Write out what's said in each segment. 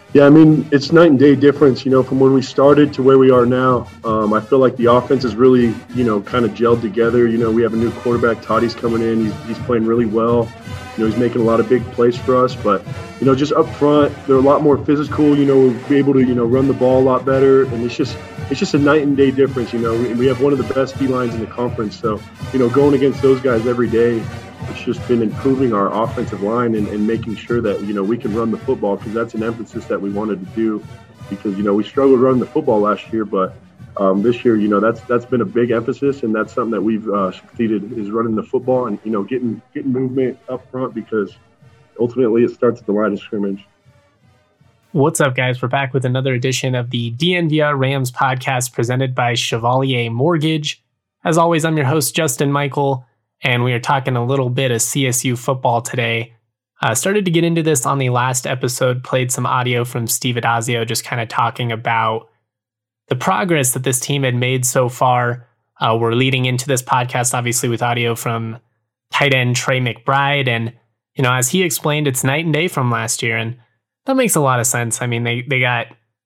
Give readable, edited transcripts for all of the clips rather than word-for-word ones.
Yeah, I mean, it's night and day difference, from when we started to where we are now. I feel like the offense is really, kind of gelled together. We have a new quarterback, Toddy's coming in. He's playing really well. He's making a lot of big plays for us. But, just up front, they're a lot more physical. We'll be able to, run the ball a lot better. And it's just a night and day difference. We have one of the best D-lines in the conference. So, going against those guys every day, it's just been improving our offensive line and making sure that, we can run the football, because that's an emphasis that we wanted to do, because, we struggled running the football last year, but this year, that's been a big emphasis, and that's something that we've succeeded, is running the football and, getting movement up front, because ultimately it starts at the line of scrimmage. What's up, guys? We're back with another edition of the DNVR Rams podcast presented by Chevalier Mortgage. As always, I'm your host, Justin Michael, and we are talking a little bit of CSU football today. Started to get into this on the last episode, played some audio from Steve Addazio, just kind of talking about the progress that this team had made so far. We're leading into this podcast, obviously, with audio from tight end Trey McBride. And, as he explained, it's night and day from last year. And that makes a lot of sense. I mean, they got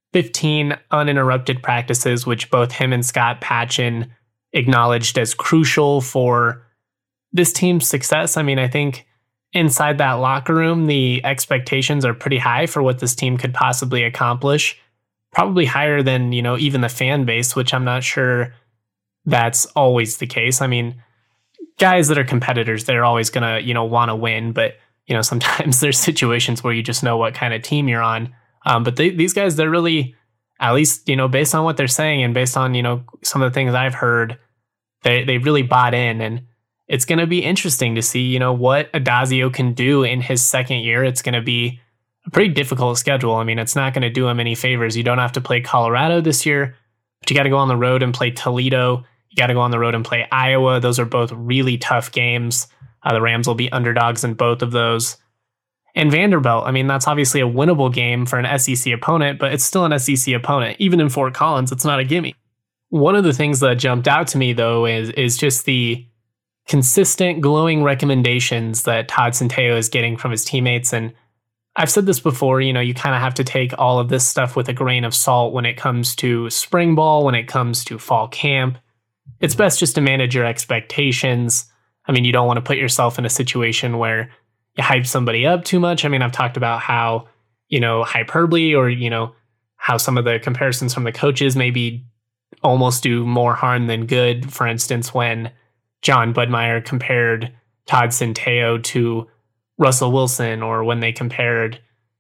15 uninterrupted practices, which both him and Scott Patchin acknowledged as crucial for this team's success. I mean, I think inside that locker room, the expectations are pretty high for what this team could possibly accomplish. Probably higher than, even the fan base, which I'm not sure that's always the case. I mean, guys that are competitors, they're always going to, want to win. But, sometimes there's situations where you just know what kind of team you're on. But these guys, they're really, at least, based on what they're saying and based on, some of the things I've heard, they really bought in. And it's going to be interesting to see, what Addazio can do in his second year. It's going to be a pretty difficult schedule. I mean, it's not going to do him any favors. You don't have to play Colorado this year, but you got to go on the road and play Toledo. You got to go on the road and play Iowa. Those are both really tough games. The Rams will be underdogs in both of those. And Vanderbilt, I mean, that's obviously a winnable game for an SEC opponent, but it's still an SEC opponent. Even in Fort Collins, it's not a gimme. One of the things that jumped out to me, though, is just the consistent glowing recommendations that Todd Centeio is getting from his teammates. And I've said this before, you kind of have to take all of this stuff with a grain of salt when it comes to spring ball, when it comes to fall camp. It's best just to manage your expectations. I mean, you don't want to put yourself in a situation where you hype somebody up too much. I mean, I've talked about how, hyperbole or, how some of the comparisons from the coaches maybe almost do more harm than good. For instance, when John Budmeyer compared Todd Centeio to Russell Wilson, or when they compared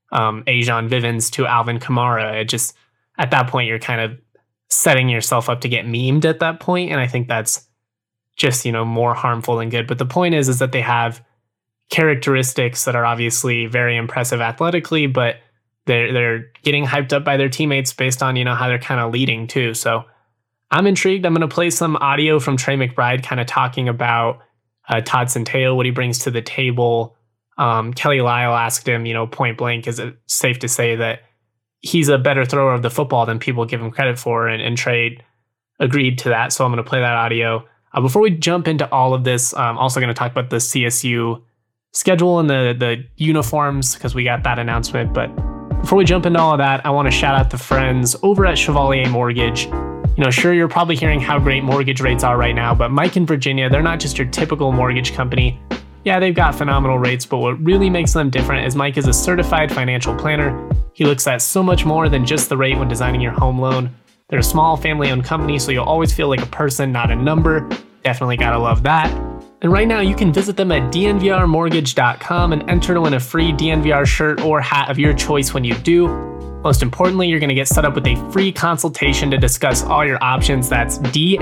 Ajon Vivens to Alvin Kamara. It just, at that point, you're kind of setting yourself up to get memed at that point. And I think that's just, more harmful than good. But the point is that they have characteristics that are obviously very impressive athletically, but they're getting hyped up by their teammates based on, how they're kind of leading too. So I'm intrigued. I'm going to play some audio from Trey McBride kind of talking about Todd Centeio, what he brings to the table. Kelly Lyle asked him, point blank, is it safe to say that he's a better thrower of the football than people give him credit for? And Trey agreed to that. So I'm going to play that audio. Before we jump into all of this, I'm also going to talk about the CSU schedule and the uniforms, because we got that announcement. But before we jump into all of that, I want to shout out the friends over at Chevalier Mortgage. Sure, you're probably hearing how great mortgage rates are right now, but Mike in Virginia, they're not just your typical mortgage company. Yeah, they've got phenomenal rates, but what really makes them different is Mike is a certified financial planner. He looks at so much more than just the rate when designing your home loan. They're a small family-owned company, so you'll always feel like a person, not a number. Definitely gotta love that. And right now, you can visit them at dnvrmortgage.com and enter to win a free DNVR shirt or hat of your choice when you do. Most importantly, you're going to get set up with a free consultation to discuss all your options. That's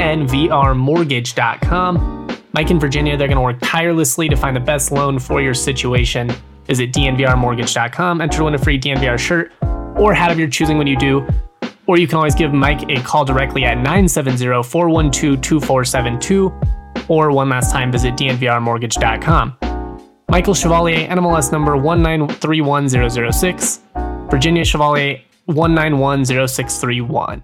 dnvrmortgage.com. Mike in Virginia, they're going to work tirelessly to find the best loan for your situation. Visit dnvrmortgage.com, enter to win a free DNVR shirt or hat of your choosing when you do. Or you can always give Mike a call directly at 970-412-2472. Or one last time, visit dnvrmortgage.com. Michael Chevalier, NMLS number 1931006. Virginia Chevalier 1910631.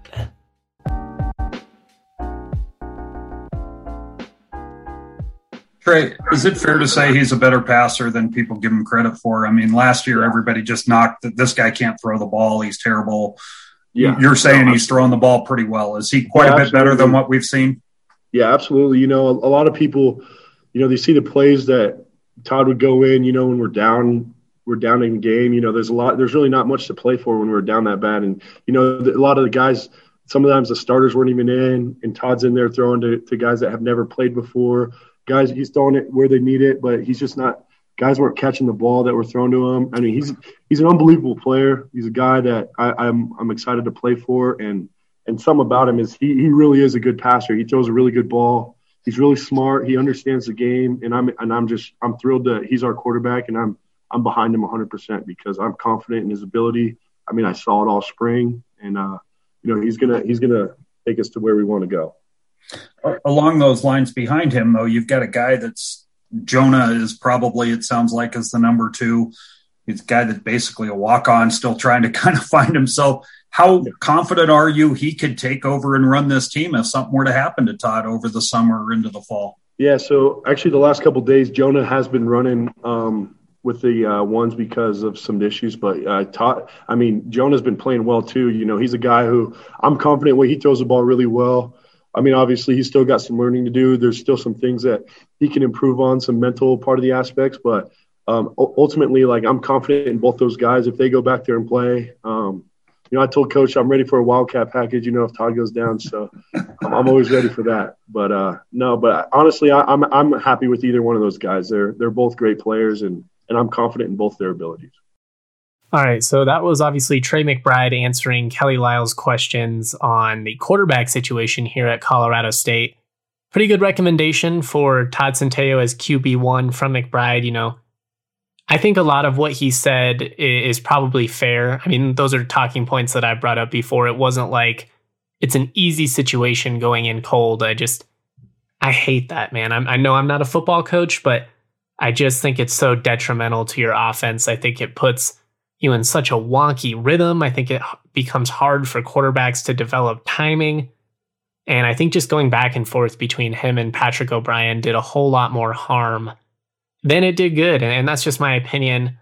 Trey, is it fair to say he's a better passer than people give him credit for? I mean, last year everybody just knocked that this guy can't throw the ball. He's terrible. Yeah, you're saying he's throwing the ball pretty well. Is he quite a bit better than what we've seen? Yeah, absolutely. A lot of people, they see the plays that Todd would go in, when we're down in the game. There's really not much to play for when we're down that bad. And, a lot of the guys, sometimes the starters weren't even in, and Todd's in there throwing to guys that have never played before. Guys, he's throwing it where they need it, but he's just not – guys weren't catching the ball that were thrown to him. I mean, he's an unbelievable player. He's a guy that I'm excited to play for, and some about him is he really is a good passer. He throws a really good ball. He's really smart. He understands the game, and I'm thrilled that he's our quarterback, and I'm behind him 100% because I'm confident in his ability. I mean, I saw it all spring, and he's gonna take us to where we want to go. Along those lines behind him, though, you've got a guy that's Jonah is probably, it sounds like, is the number 2. He's a guy that's basically a walk-on, still trying to kind of find himself. How confident are you he could take over and run this team if something were to happen to Todd over the summer or into the fall? Yeah, so actually the last couple of days, Jonah has been running with the ones because of some issues. But Jonah's been playing well too. He's a guy who I'm confident he throws the ball really well. I mean, obviously, he's still got some learning to do. There's still some things that he can improve on, some mental part of the aspects. But ultimately, I'm confident in both those guys if they go back there and play. I told Coach I'm ready for a Wildcat package, if Todd goes down. So I'm always ready for that. But but honestly, I'm happy with either one of those guys. They're both great players, and I'm confident in both their abilities. All right, so that was obviously Trey McBride answering Kelly Lyle's questions on the quarterback situation here at Colorado State. Pretty good recommendation for Todd Centeio as QB1 from McBride. I think a lot of what he said is probably fair. I mean, those are talking points that I brought up before. It wasn't like it's an easy situation going in cold. I hate that, man. I know I'm not a football coach, but I just think it's so detrimental to your offense. I think it puts you in such a wonky rhythm. I think it becomes hard for quarterbacks to develop timing. And I think just going back and forth between him and Patrick O'Brien did a whole lot more harm than it did good. And that's just my opinion.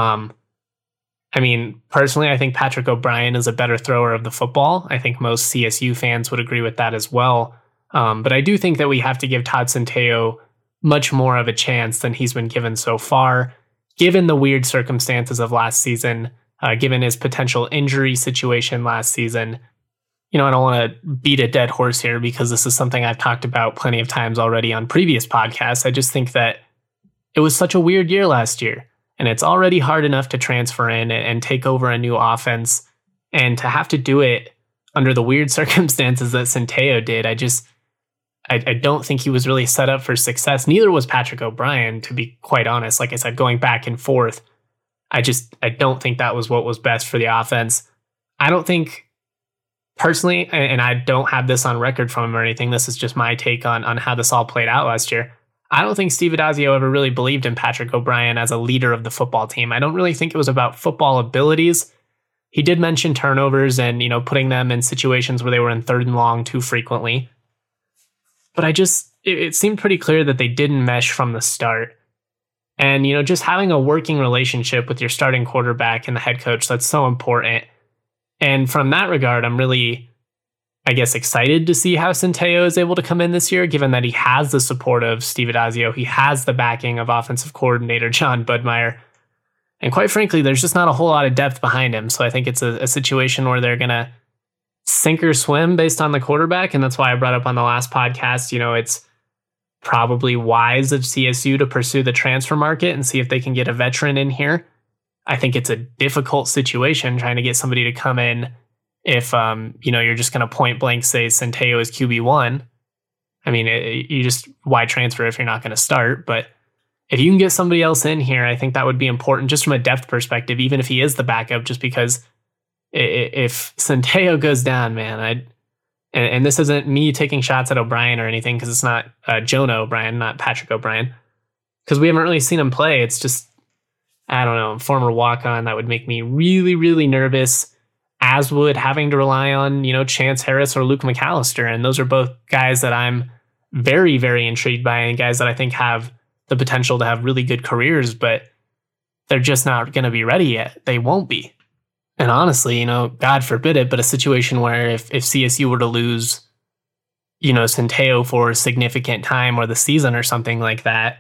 Personally, I think Patrick O'Brien is a better thrower of the football. I think most CSU fans would agree with that as well. But I do think that we have to give Todd Centeio much more of a chance than he's been given so far, given the weird circumstances of last season, given his potential injury situation last season. I don't want to beat a dead horse here because this is something I've talked about plenty of times already on previous podcasts. I just think that it was such a weird year last year, and it's already hard enough to transfer in and take over a new offense, and to have to do it under the weird circumstances that Centeio did. I don't think he was really set up for success. Neither was Patrick O'Brien, to be quite honest. Like I said, going back and forth, I don't think that was what was best for the offense. I don't think, personally, and I don't have this on record from him or anything, this is just my take on how this all played out last year. I don't think Steve Addazio ever really believed in Patrick O'Brien as a leader of the football team. I don't really think it was about football abilities. He did mention turnovers and, putting them in situations where they were in 3rd and long too frequently. But it seemed pretty clear that they didn't mesh from the start. And, just having a working relationship with your starting quarterback and the head coach, that's so important. And from that regard, I'm really, excited to see how Centeio is able to come in this year, given that he has the support of Steve Addazio. He has the backing of offensive coordinator John Budmeyer. And quite frankly, there's just not a whole lot of depth behind him. So I think it's a situation where they're going to sink or swim based on the quarterback. And that's why I brought up on the last podcast, it's probably wise of CSU to pursue the transfer market and see if they can get a veteran in here. I think it's a difficult situation trying to get somebody to come in if, you're just going to point blank say Centeio is QB1. Why transfer if you're not going to start? But if you can get somebody else in here, I think that would be important just from a depth perspective, even if he is the backup, just because if Centeio goes down, man, and this isn't me taking shots at O'Brien or anything, because it's not Jonah O'Brien, not Patrick O'Brien, because we haven't really seen him play. It's just, I don't know, former walk-on. That would make me really, really nervous, as would having to rely on, Chance Harris or Luke McAllister. And those are both guys that I'm very, very intrigued by, and guys that I think have the potential to have really good careers, but they're just not going to be ready yet. They won't be. And honestly, God forbid it, but a situation where if CSU were to lose, Centeio for a significant time or the season or something like that,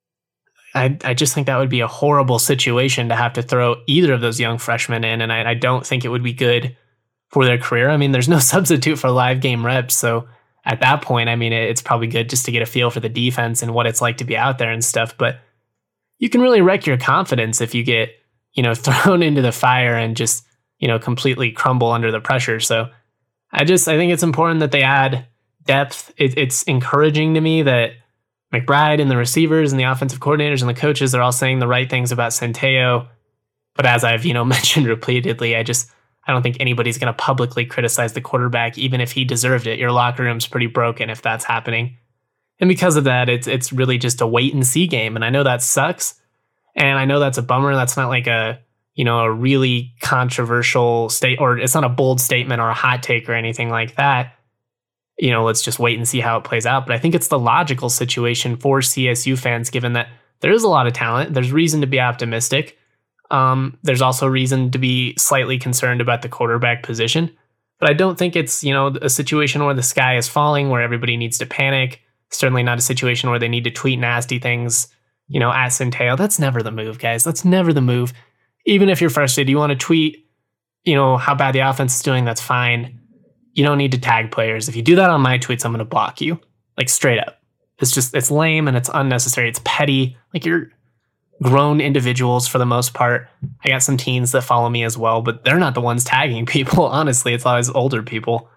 I just think that would be a horrible situation to have to throw either of those young freshmen in. And I don't think it would be good for their career. I mean, there's no substitute for live game reps. So at that point, I mean, it's probably good just to get a feel for the defense and what it's like to be out there and stuff. But you can really wreck your confidence if you get, thrown into the fire and just, completely crumble under the pressure. So I think it's important that they add depth. It's encouraging to me that McBride and the receivers and the offensive coordinators and the coaches are all saying the right things about Centeio. But as I've, mentioned repeatedly, I don't think anybody's going to publicly criticize the quarterback, even if he deserved it. Your locker room's pretty broken if that's happening. And because of that, it's really just a wait and see game. And I know that sucks. And I know that's a bummer. That's not like a really controversial or it's not a bold statement or a hot take or anything like that. Let's just wait and see how it plays out. But I think it's the logical situation for CSU fans, given that there is a lot of talent. There's reason to be optimistic. There's also reason to be slightly concerned about the quarterback position. But I don't think it's, a situation where the sky is falling, where everybody needs to panic. Certainly not a situation where they need to tweet nasty things, at Centeio. That's never the move, guys. That's never the move. Even if you're frustrated, you want to tweet, how bad the offense is doing, that's fine. You don't need to tag players. If you do that on my tweets, I'm going to block you. Like, straight up. It's lame and it's unnecessary. It's petty. Like, you're grown individuals for the most part. I got some teens that follow me as well, but they're not the ones tagging people. Honestly, it's always older people.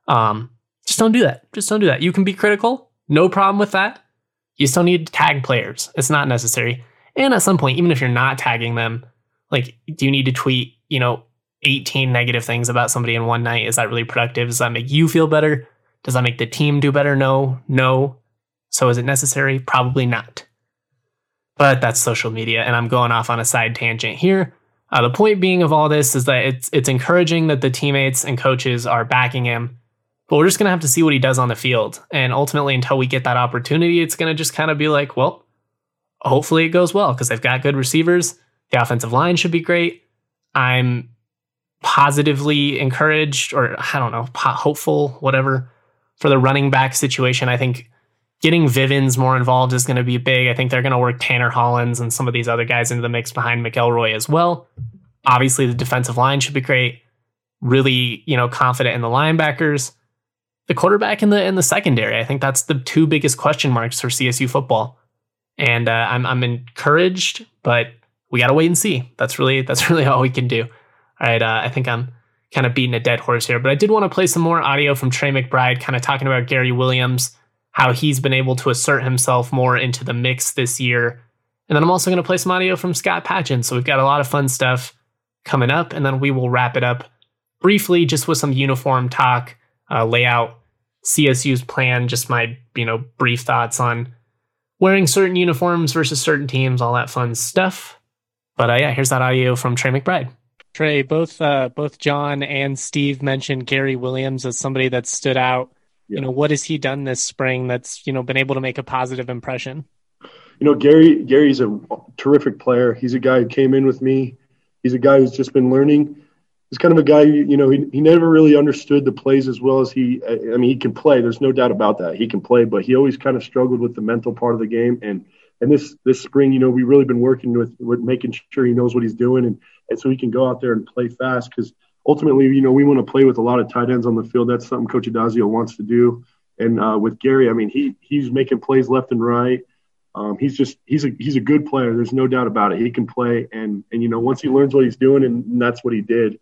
Just don't do that. Just don't do that. You can be critical. No problem with that. You still need to tag players. It's not necessary. And at some point, even if you're not tagging them, like, do you need to tweet, 18 negative things about somebody in one night? Is that really productive? Does that make you feel better? Does that make the team do better? No. So is it necessary? Probably not. But that's social media, and I'm going off on a side tangent here. The point being of all this is that it's encouraging that the teammates and coaches are backing him, but we're just going to have to see what he does on the field. And ultimately, until we get that opportunity, it's going to just kind of be like, well, hopefully it goes well because they've got good receivers. The offensive line should be great. I'm positively encouraged, or I don't know, hopeful, whatever, for the running back situation. I think getting Vivens more involved is going to be big. I think they're going to work Tanner Hollins and some of these other guys into the mix behind McElroy as well. Obviously, the defensive line should be great. Really, confident in the linebackers. The quarterback in the secondary. I think that's the two biggest question marks for CSU football. And I'm encouraged, but we got to wait and see. That's really all we can do. All right, I think I'm kind of beating a dead horse here, but I did want to play some more audio from Trey McBride, kind of talking about Gary Williams, how he's been able to assert himself more into the mix this year. And then I'm also going to play some audio from Scott Patchin. So we've got a lot of fun stuff coming up, and then we will wrap it up briefly just with some uniform talk, lay out CSU's plan, just my brief thoughts on wearing certain uniforms versus certain teams, all that fun stuff. But here's that audio from Trey McBride. Trey, both John and Steve mentioned Gary Williams as somebody that stood out. Yeah. What has he done this spring that's, been able to make a positive impression? Gary's a terrific player. He's a guy who came in with me. He's a guy who's just been learning. He's kind of a guy, he never really understood the plays as well as he can play. There's no doubt about that. He can play, but he always kind of struggled with the mental part of the game. And this spring, we've really been working with making sure he knows what he's doing and so he can go out there and play fast because ultimately, we want to play with a lot of tight ends on the field. That's something Coach Adazio wants to do. And with Gary, he's making plays left and right. He's a good player. There's no doubt about it. He can play, and once he learns what he's doing, and that's what he did.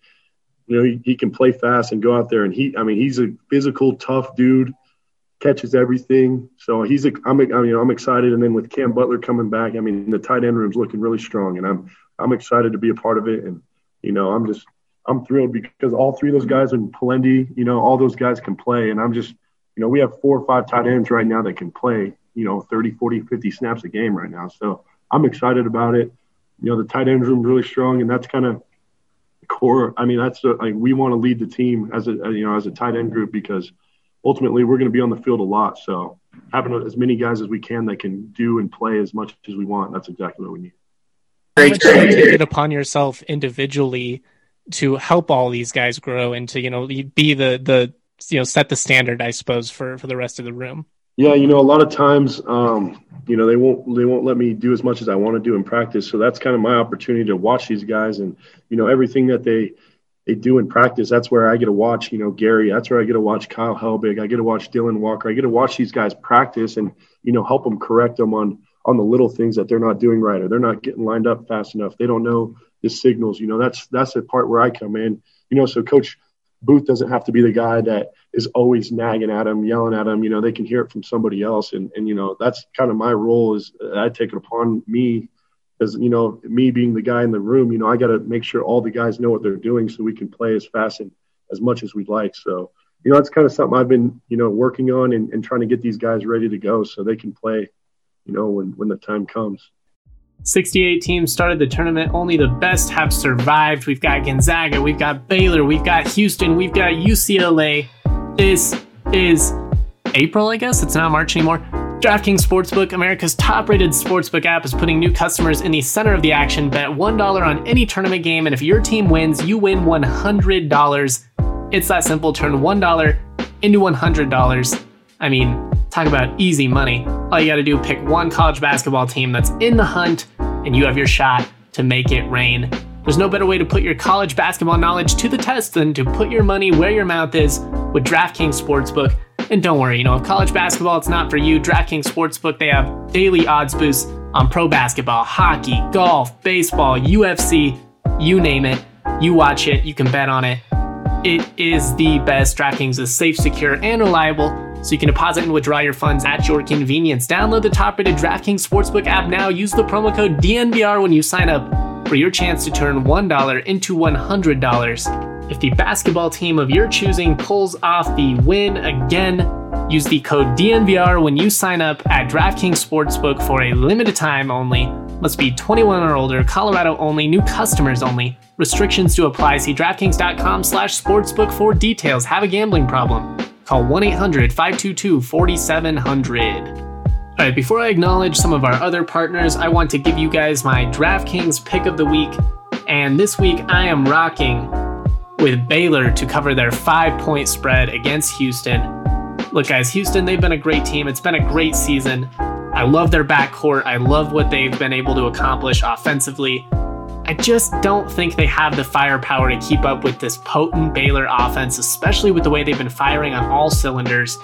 He can play fast and go out there, and he's a physical, tough dude, catches everything. So I'm excited. And then with Cam Butler coming back, the tight end room's looking really strong, and I'm excited to be a part of it. And I'm thrilled because all three of those guys and Palendi, all those guys can play, and I'm just, we have 4 or 5 tight ends right now that can play, 30, 40, 50 snaps a game right now. So I'm excited about it. The tight end room is really strong, and that's kind of core. That's we want to lead the team as a tight end group because ultimately we're going to be on the field a lot. So having as many guys as we can that can do and play as much as we want. That's exactly what we need. How much do you take it upon yourself individually to help all these guys grow and to, be the set the standard, I suppose, for the rest of the room? Yeah, a lot of times, they won't let me do as much as I want to do in practice. So that's kind of my opportunity to watch these guys and, everything that they do in practice. That's where I get to watch, Gary. That's where I get to watch Kyle Helbig. I get to watch Dylan Walker. I get to watch these guys practice and, help them correct them on the little things that they're not doing right, or they're not getting lined up fast enough. They don't know the signals. That's the part where I come in. So Coach Booth doesn't have to be the guy that is always nagging at them, yelling at them. They can hear it from somebody else. And that's kind of my role is I take it upon me as, me being the guy in the room, I got to make sure all the guys know what they're doing so we can play as fast and as much as we'd like. So, that's kind of something I've been, working on and trying to get these guys ready to go so they can play, when the time comes. 68 teams started the tournament. Only the best have survived. We've got Gonzaga, we've got Baylor, we've got Houston, we've got UCLA. This is April, I guess. It's not March anymore. DraftKings Sportsbook, America's top-rated sportsbook app, is putting new customers in the center of the action. Bet $1 on any tournament game, and if your team wins, you win $100. It's that simple. Turn $1 into $100. I mean, talk about easy money. All you got to do is pick one college basketball team that's in the hunt, and you have your shot to make it rain. There's no better way to put your college basketball knowledge to the test than to put your money where your mouth is with DraftKings Sportsbook. And don't worry, if college basketball it's not for you, DraftKings Sportsbook, they have daily odds boosts on pro basketball, hockey, golf, baseball, UFC, you name it. You watch it, you can bet on it. It is the best. DraftKings is safe, secure, and reliable, so you can deposit and withdraw your funds at your convenience. Download the top-rated DraftKings Sportsbook app now. Use the promo code DNVR when you sign up for your chance to turn $1 into $100. If the basketball team of your choosing pulls off the win again, use the code DNVR when you sign up at DraftKings Sportsbook for a limited time only. Must be 21 or older, Colorado only, new customers only. Restrictions to apply. See DraftKings.com/sportsbook for details. Have a gambling problem? Call 1-800-522-4700. All right, before I acknowledge some of our other partners, I want to give you guys my DraftKings pick of the week. And this week I am rocking with Baylor to cover their 5-point spread against Houston. Look, guys, Houston, they've been a great team. It's been a great season. I love their backcourt. I love what they've been able to accomplish offensively. I just don't think they have the firepower to keep up with this potent Baylor offense, especially with the way they've been firing on all cylinders.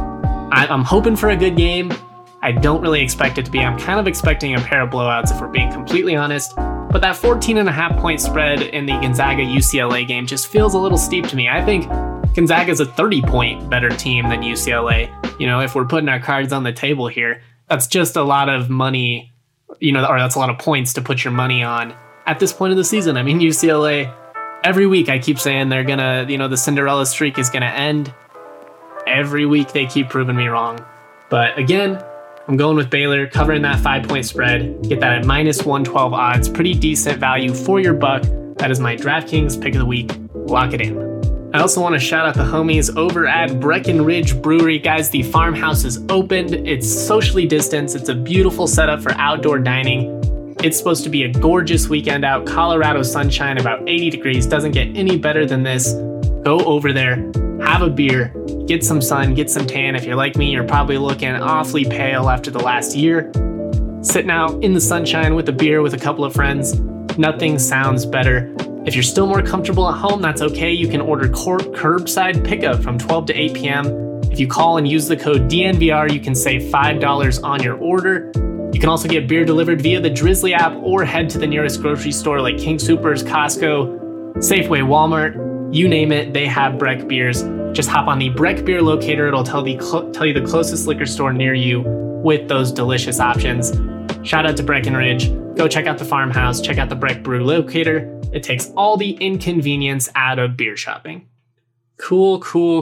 I'm hoping for a good game. I don't really expect it to be. I'm kind of expecting a pair of blowouts if we're being completely honest. But that 14.5-point spread in the Gonzaga-UCLA game just feels a little steep to me. I think Gonzaga's a 30-point better team than UCLA. If we're putting our cards on the table here, that's just a lot of money, or that's a lot of points to put your money on at this point of the season. I mean, UCLA, every week I keep saying they're going to, the Cinderella streak is going to end. Every week they keep proving me wrong. But again, I'm going with Baylor, covering that 5-point spread. Get that at -112 odds. Pretty decent value for your buck. That is my DraftKings pick of the week. Lock it in. I also want to shout out the homies over at Breckenridge Brewery. Guys, the farmhouse is opened. It's socially distanced. It's a beautiful setup for outdoor dining. It's supposed to be a gorgeous weekend out. Colorado sunshine, about 80 degrees. Doesn't get any better than this. Go over there, have a beer, get some sun, get some tan. If you're like me, you're probably looking awfully pale after the last year. Sitting out in the sunshine with a beer with a couple of friends, nothing sounds better. If you're still more comfortable at home, that's okay. You can order curbside pickup from 12 to 8 p.m. If you call and use the code DNVR, you can save $5 on your order. You can also get beer delivered via the Drizzly app or head to the nearest grocery store like King Soopers, Costco, Safeway, Walmart. You name it, they have Breck beers. Just hop on the Breck Beer Locator. It'll tell you the closest liquor store near you with those delicious options. Shout out to Breckenridge. Go check out the farmhouse. Check out the Breck Brew Locator. It takes all the inconvenience out of beer shopping. Cool.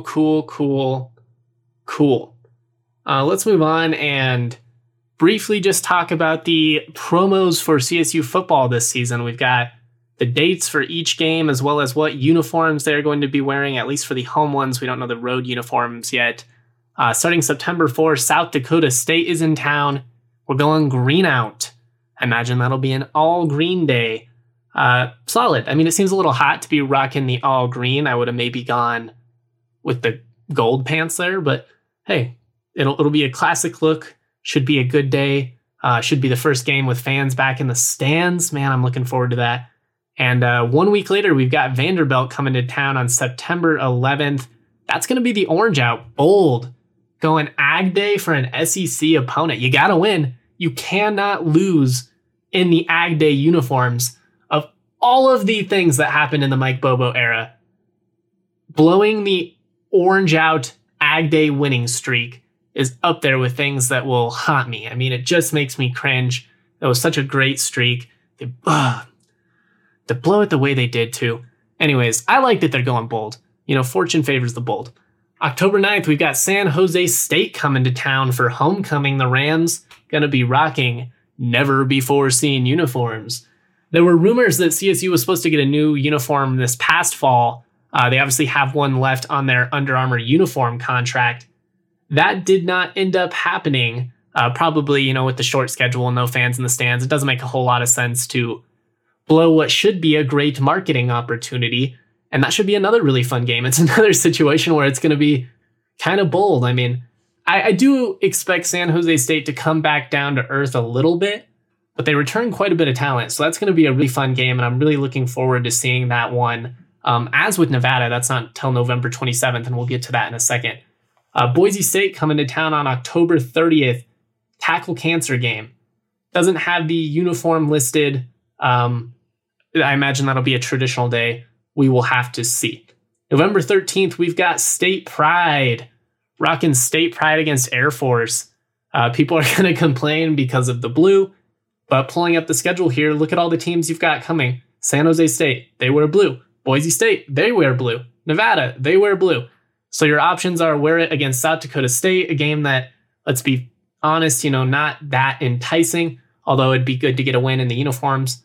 Let's move on and briefly just talk about the promos for CSU football this season. We've got the dates for each game, as well as what uniforms they're going to be wearing, at least for the home ones. We don't know the road uniforms yet. Starting September 4th, South Dakota State is in town. We're going green out. I imagine that'll be an all green day. Solid. I mean, it seems a little hot to be rocking the all green. I would have maybe gone with the gold pants there, but hey, it'll be a classic look. Should be a good day. Should be the first game with fans back in the stands. Man, I'm looking forward to that. And 1 week later, we've got Vanderbilt coming to town on September 11th. That's going to be the orange out. Bold. Going Ag Day for an SEC opponent. You got to win. You cannot lose in the Ag Day uniforms. Of all of the things that happened in the Mike Bobo era, blowing the orange out Ag Day winning streak is up there with things that will haunt me. I mean, it just makes me cringe. That was such a great streak. To blow it the way they did too. Anyways, I like that they're going bold. You know, fortune favors the bold. October 9th, we've got San Jose State coming to town for homecoming. The Rams going to be rocking never before seen uniforms. There were rumors that CSU was supposed to get a new uniform this past fall. They obviously have one left on their Under Armour uniform contract. That did not end up happening. Probably, you know, with the short schedule and no fans in the stands, it doesn't make a whole lot of sense to blow what should be a great marketing opportunity. And that should be another really fun game. It's another situation where it's going to be kind of bold. I mean, I do expect San Jose State to come back down to earth a little bit, but they return quite a bit of talent. So that's going to be a really fun game. And I'm really looking forward to seeing that one. As with Nevada, that's not until November 27th, and we'll get to that in a second. Boise State coming to town on October 30th. Tackle cancer game. Doesn't have the uniform listed. I imagine that'll be a traditional day. We will have to see. November 13th, we've got State Pride. Rocking State Pride against Air Force. People are going to complain because of the blue, but pulling up the schedule here, look at all the teams you've got coming. San Jose State, they wear blue. Boise State, they wear blue. Nevada, they wear blue. So your options are wear it against South Dakota State, a game that, let's be honest, you know, not that enticing, although it'd be good to get a win in the uniforms.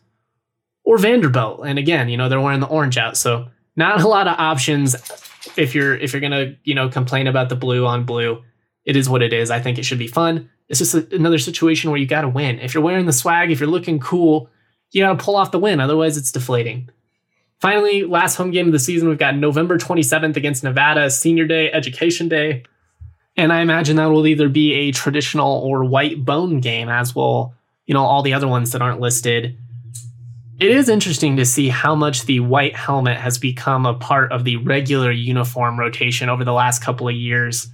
Or Vanderbilt. And again, you know, they're wearing the orange out. So not a lot of options if you're going to, you know, complain about the blue on blue. It is what it is. I think it should be fun. It's just another situation where you got to win. If you're wearing the swag, if you're looking cool, you got to pull off the win. Otherwise, it's deflating. Finally, last home game of the season, we've got November 27th against Nevada, Senior Day, Education Day. And I imagine that will either be a traditional or white bone game, as will, you know, all the other ones that aren't listed. It is interesting to see how much the white helmet has become a part of the regular uniform rotation over the last couple of years.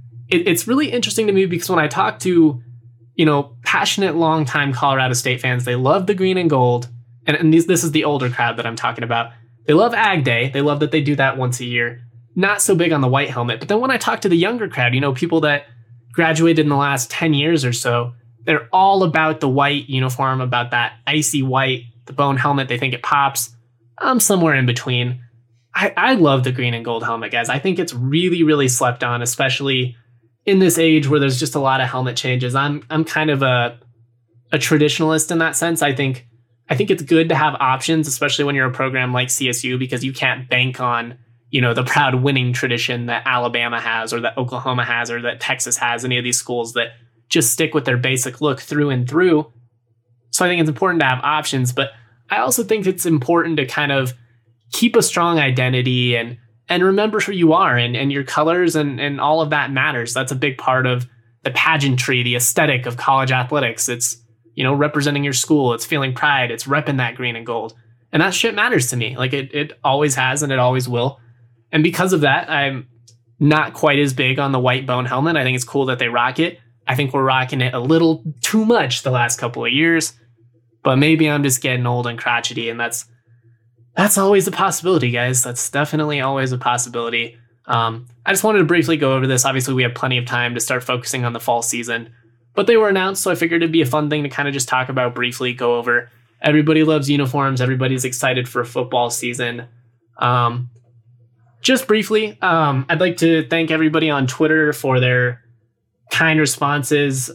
It's really interesting to me because when I talk to, you know, passionate, longtime Colorado State fans, they love the green and gold. And this is the older crowd that I'm talking about. They love Ag Day. They love that they do that once a year. Not so big on the white helmet. But then when I talk to the younger crowd, you know, people that graduated in the last 10 years or so, they're all about the white uniform, about that icy white, the bone helmet. They think it pops. I'm somewhere in between. I love the green and gold helmet, guys. I think it's really, really slept on, especially in this age where there's just a lot of helmet changes. I'm kind of a traditionalist in that sense. I think it's good to have options, especially when you're a program like CSU, because you can't bank on, you know, the proud winning tradition that Alabama has or that Oklahoma has or that Texas has, any of these schools that just stick with their basic look through and through. So I think it's important to have options, but I also think it's important to kind of keep a strong identity and remember who you are and your colors and all of that matters. That's a big part of the pageantry, the aesthetic of college athletics. It's, you know, representing your school. It's feeling pride. It's repping that green and gold. And that shit matters to me. Like it always has and it always will. And because of that, I'm not quite as big on the white bone helmet. I think it's cool that they rock it. I think we're rocking it a little too much the last couple of years. But maybe I'm just getting old and crotchety, and that's always a possibility, guys. That's definitely always a possibility. I just wanted to briefly go over this. Obviously, we have plenty of time to start focusing on the fall season, but they were announced, so I figured it'd be a fun thing to kind of just talk about briefly, go over. Everybody loves uniforms. Everybody's excited for football season. Just briefly, I'd like to thank everybody on Twitter for their kind responses.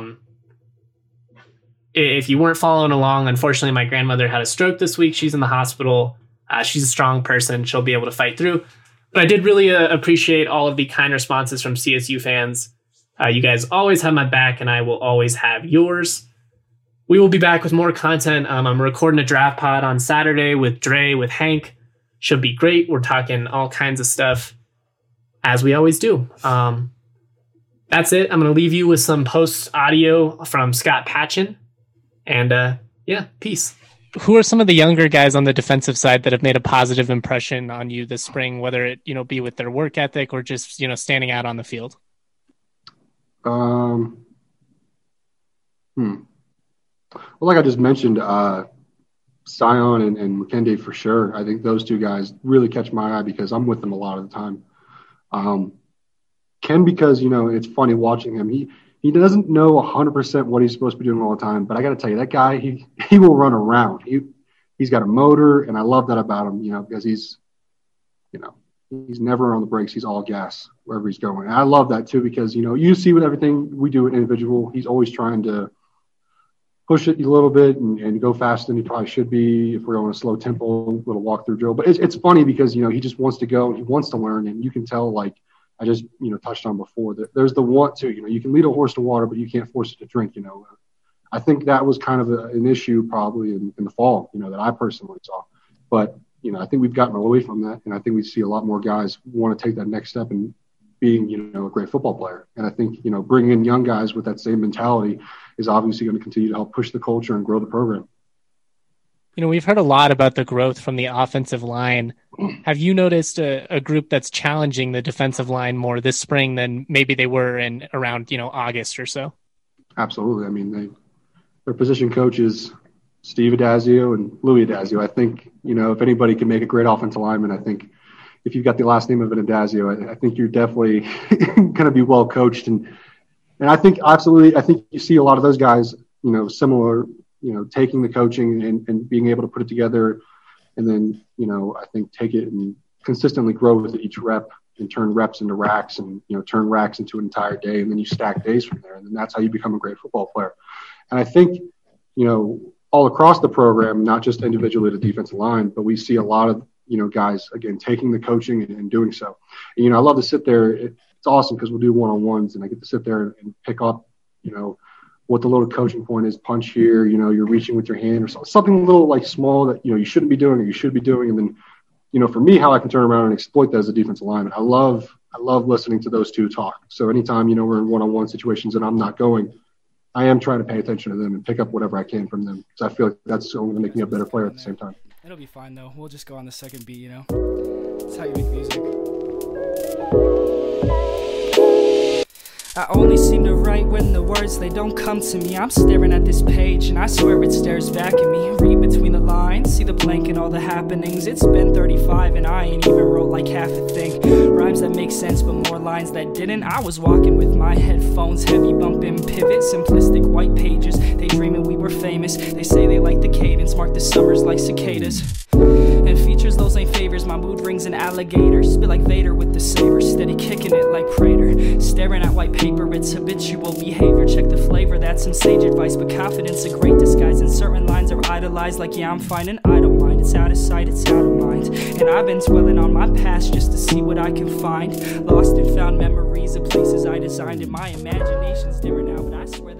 If you weren't following along, unfortunately, my grandmother had a stroke this week. She's in the hospital. She's a strong person. She'll be able to fight through. But I did really appreciate all of the kind responses from CSU fans. You guys always have my back, and I will always have yours. We will be back with more content. I'm recording a draft pod on Saturday with Dre, with Hank. Should be great. We're talking all kinds of stuff, as we always do. That's it. I'm going to leave you with some post audio from Scott Patchin. And peace. Who are some of the younger guys on the defensive side that have made a positive impression on you this spring, whether it, be with their work ethic or just, standing out on the field? Well, like I just mentioned, Sion and McKenday for sure. I think those two guys really catch my eye because I'm with them a lot of the time. Ken, because, it's funny watching him. He doesn't know 100% what he's supposed to be doing all the time. But I got to tell you, that guy, he will run around. He's got a motor, and I love that about him, because he's never on the brakes. He's all gas wherever he's going. And I love that too because, you see with everything we do an individual, he's always trying to push it a little bit and go faster than he probably should be if we're on a slow tempo, little walk-through drill. But it's funny because, he just wants to go and he wants to learn. And you can tell, like I just, touched on before, that there's the want to, you can lead a horse to water, but you can't force it to drink, I think that was kind of an issue probably in the fall, that I personally saw. But, I think we've gotten away from that. And I think we see a lot more guys want to take that next step and being, a great football player. And I think, bringing in young guys with that same mentality is obviously going to continue to help push the culture and grow the program. We've heard a lot about the growth from the offensive line. Have you noticed a group that's challenging the defensive line more this spring than maybe they were in around, August or so? Absolutely. I mean, their position coaches, Steve Adazio and Louis Adazio. I think, if anybody can make a great offensive lineman, I think if you've got the last name of an Adazio, I think you're definitely going to be well coached. And I think absolutely, I think you see a lot of those guys, similar, taking the coaching and being able to put it together. And then, I think take it and consistently grow with it each rep and turn reps into racks and, turn racks into an entire day. And then you stack days from there. And then that's how you become a great football player. And I think, all across the program, not just individually the defensive line, but we see a lot of, guys, again, taking the coaching and doing so. And, I love to sit there. It's awesome because we'll do one-on-ones and I get to sit there and pick up, what the little coaching point is, punch here, you're reaching with your hand or something a little like small that, you shouldn't be doing or you should be doing. And then, for me, how I can turn around and exploit that as a defensive lineman. I love listening to those two talk. So anytime, we're in one-on-one situations and I'm not going, I am trying to pay attention to them and pick up whatever I can from them because I feel like that's only going to make me a better player at the same time. It'll be fine, though. We'll just go on the second beat, That's how you make music. I only seem to write when the words, they don't come to me. I'm staring at this page and I swear it stares back at me. Read between the lines, see the blank and all the happenings. It's been 35 and I ain't even wrote like half a thing. Rhymes that make sense but more lines that didn't. I was walking with my headphones, heavy bumping pivot, simplistic white pages. They dreaming we were famous. They say they like the cadence, mark the summers like cicadas. And features, those ain't favors. My mood rings an alligator. Spit like Vader with the saber. Steady kicking it like Prater. Staring at white paper, it's habitual behavior. Check the flavor, that's some sage advice. But confidence a great disguise. And certain lines are idolized. Like, yeah, I'm fine and I don't mind. It's out of sight, it's out of mind. And I've been dwelling on my past just to see what I can find. Lost and found memories of places I designed. And my imagination's different now, but I swear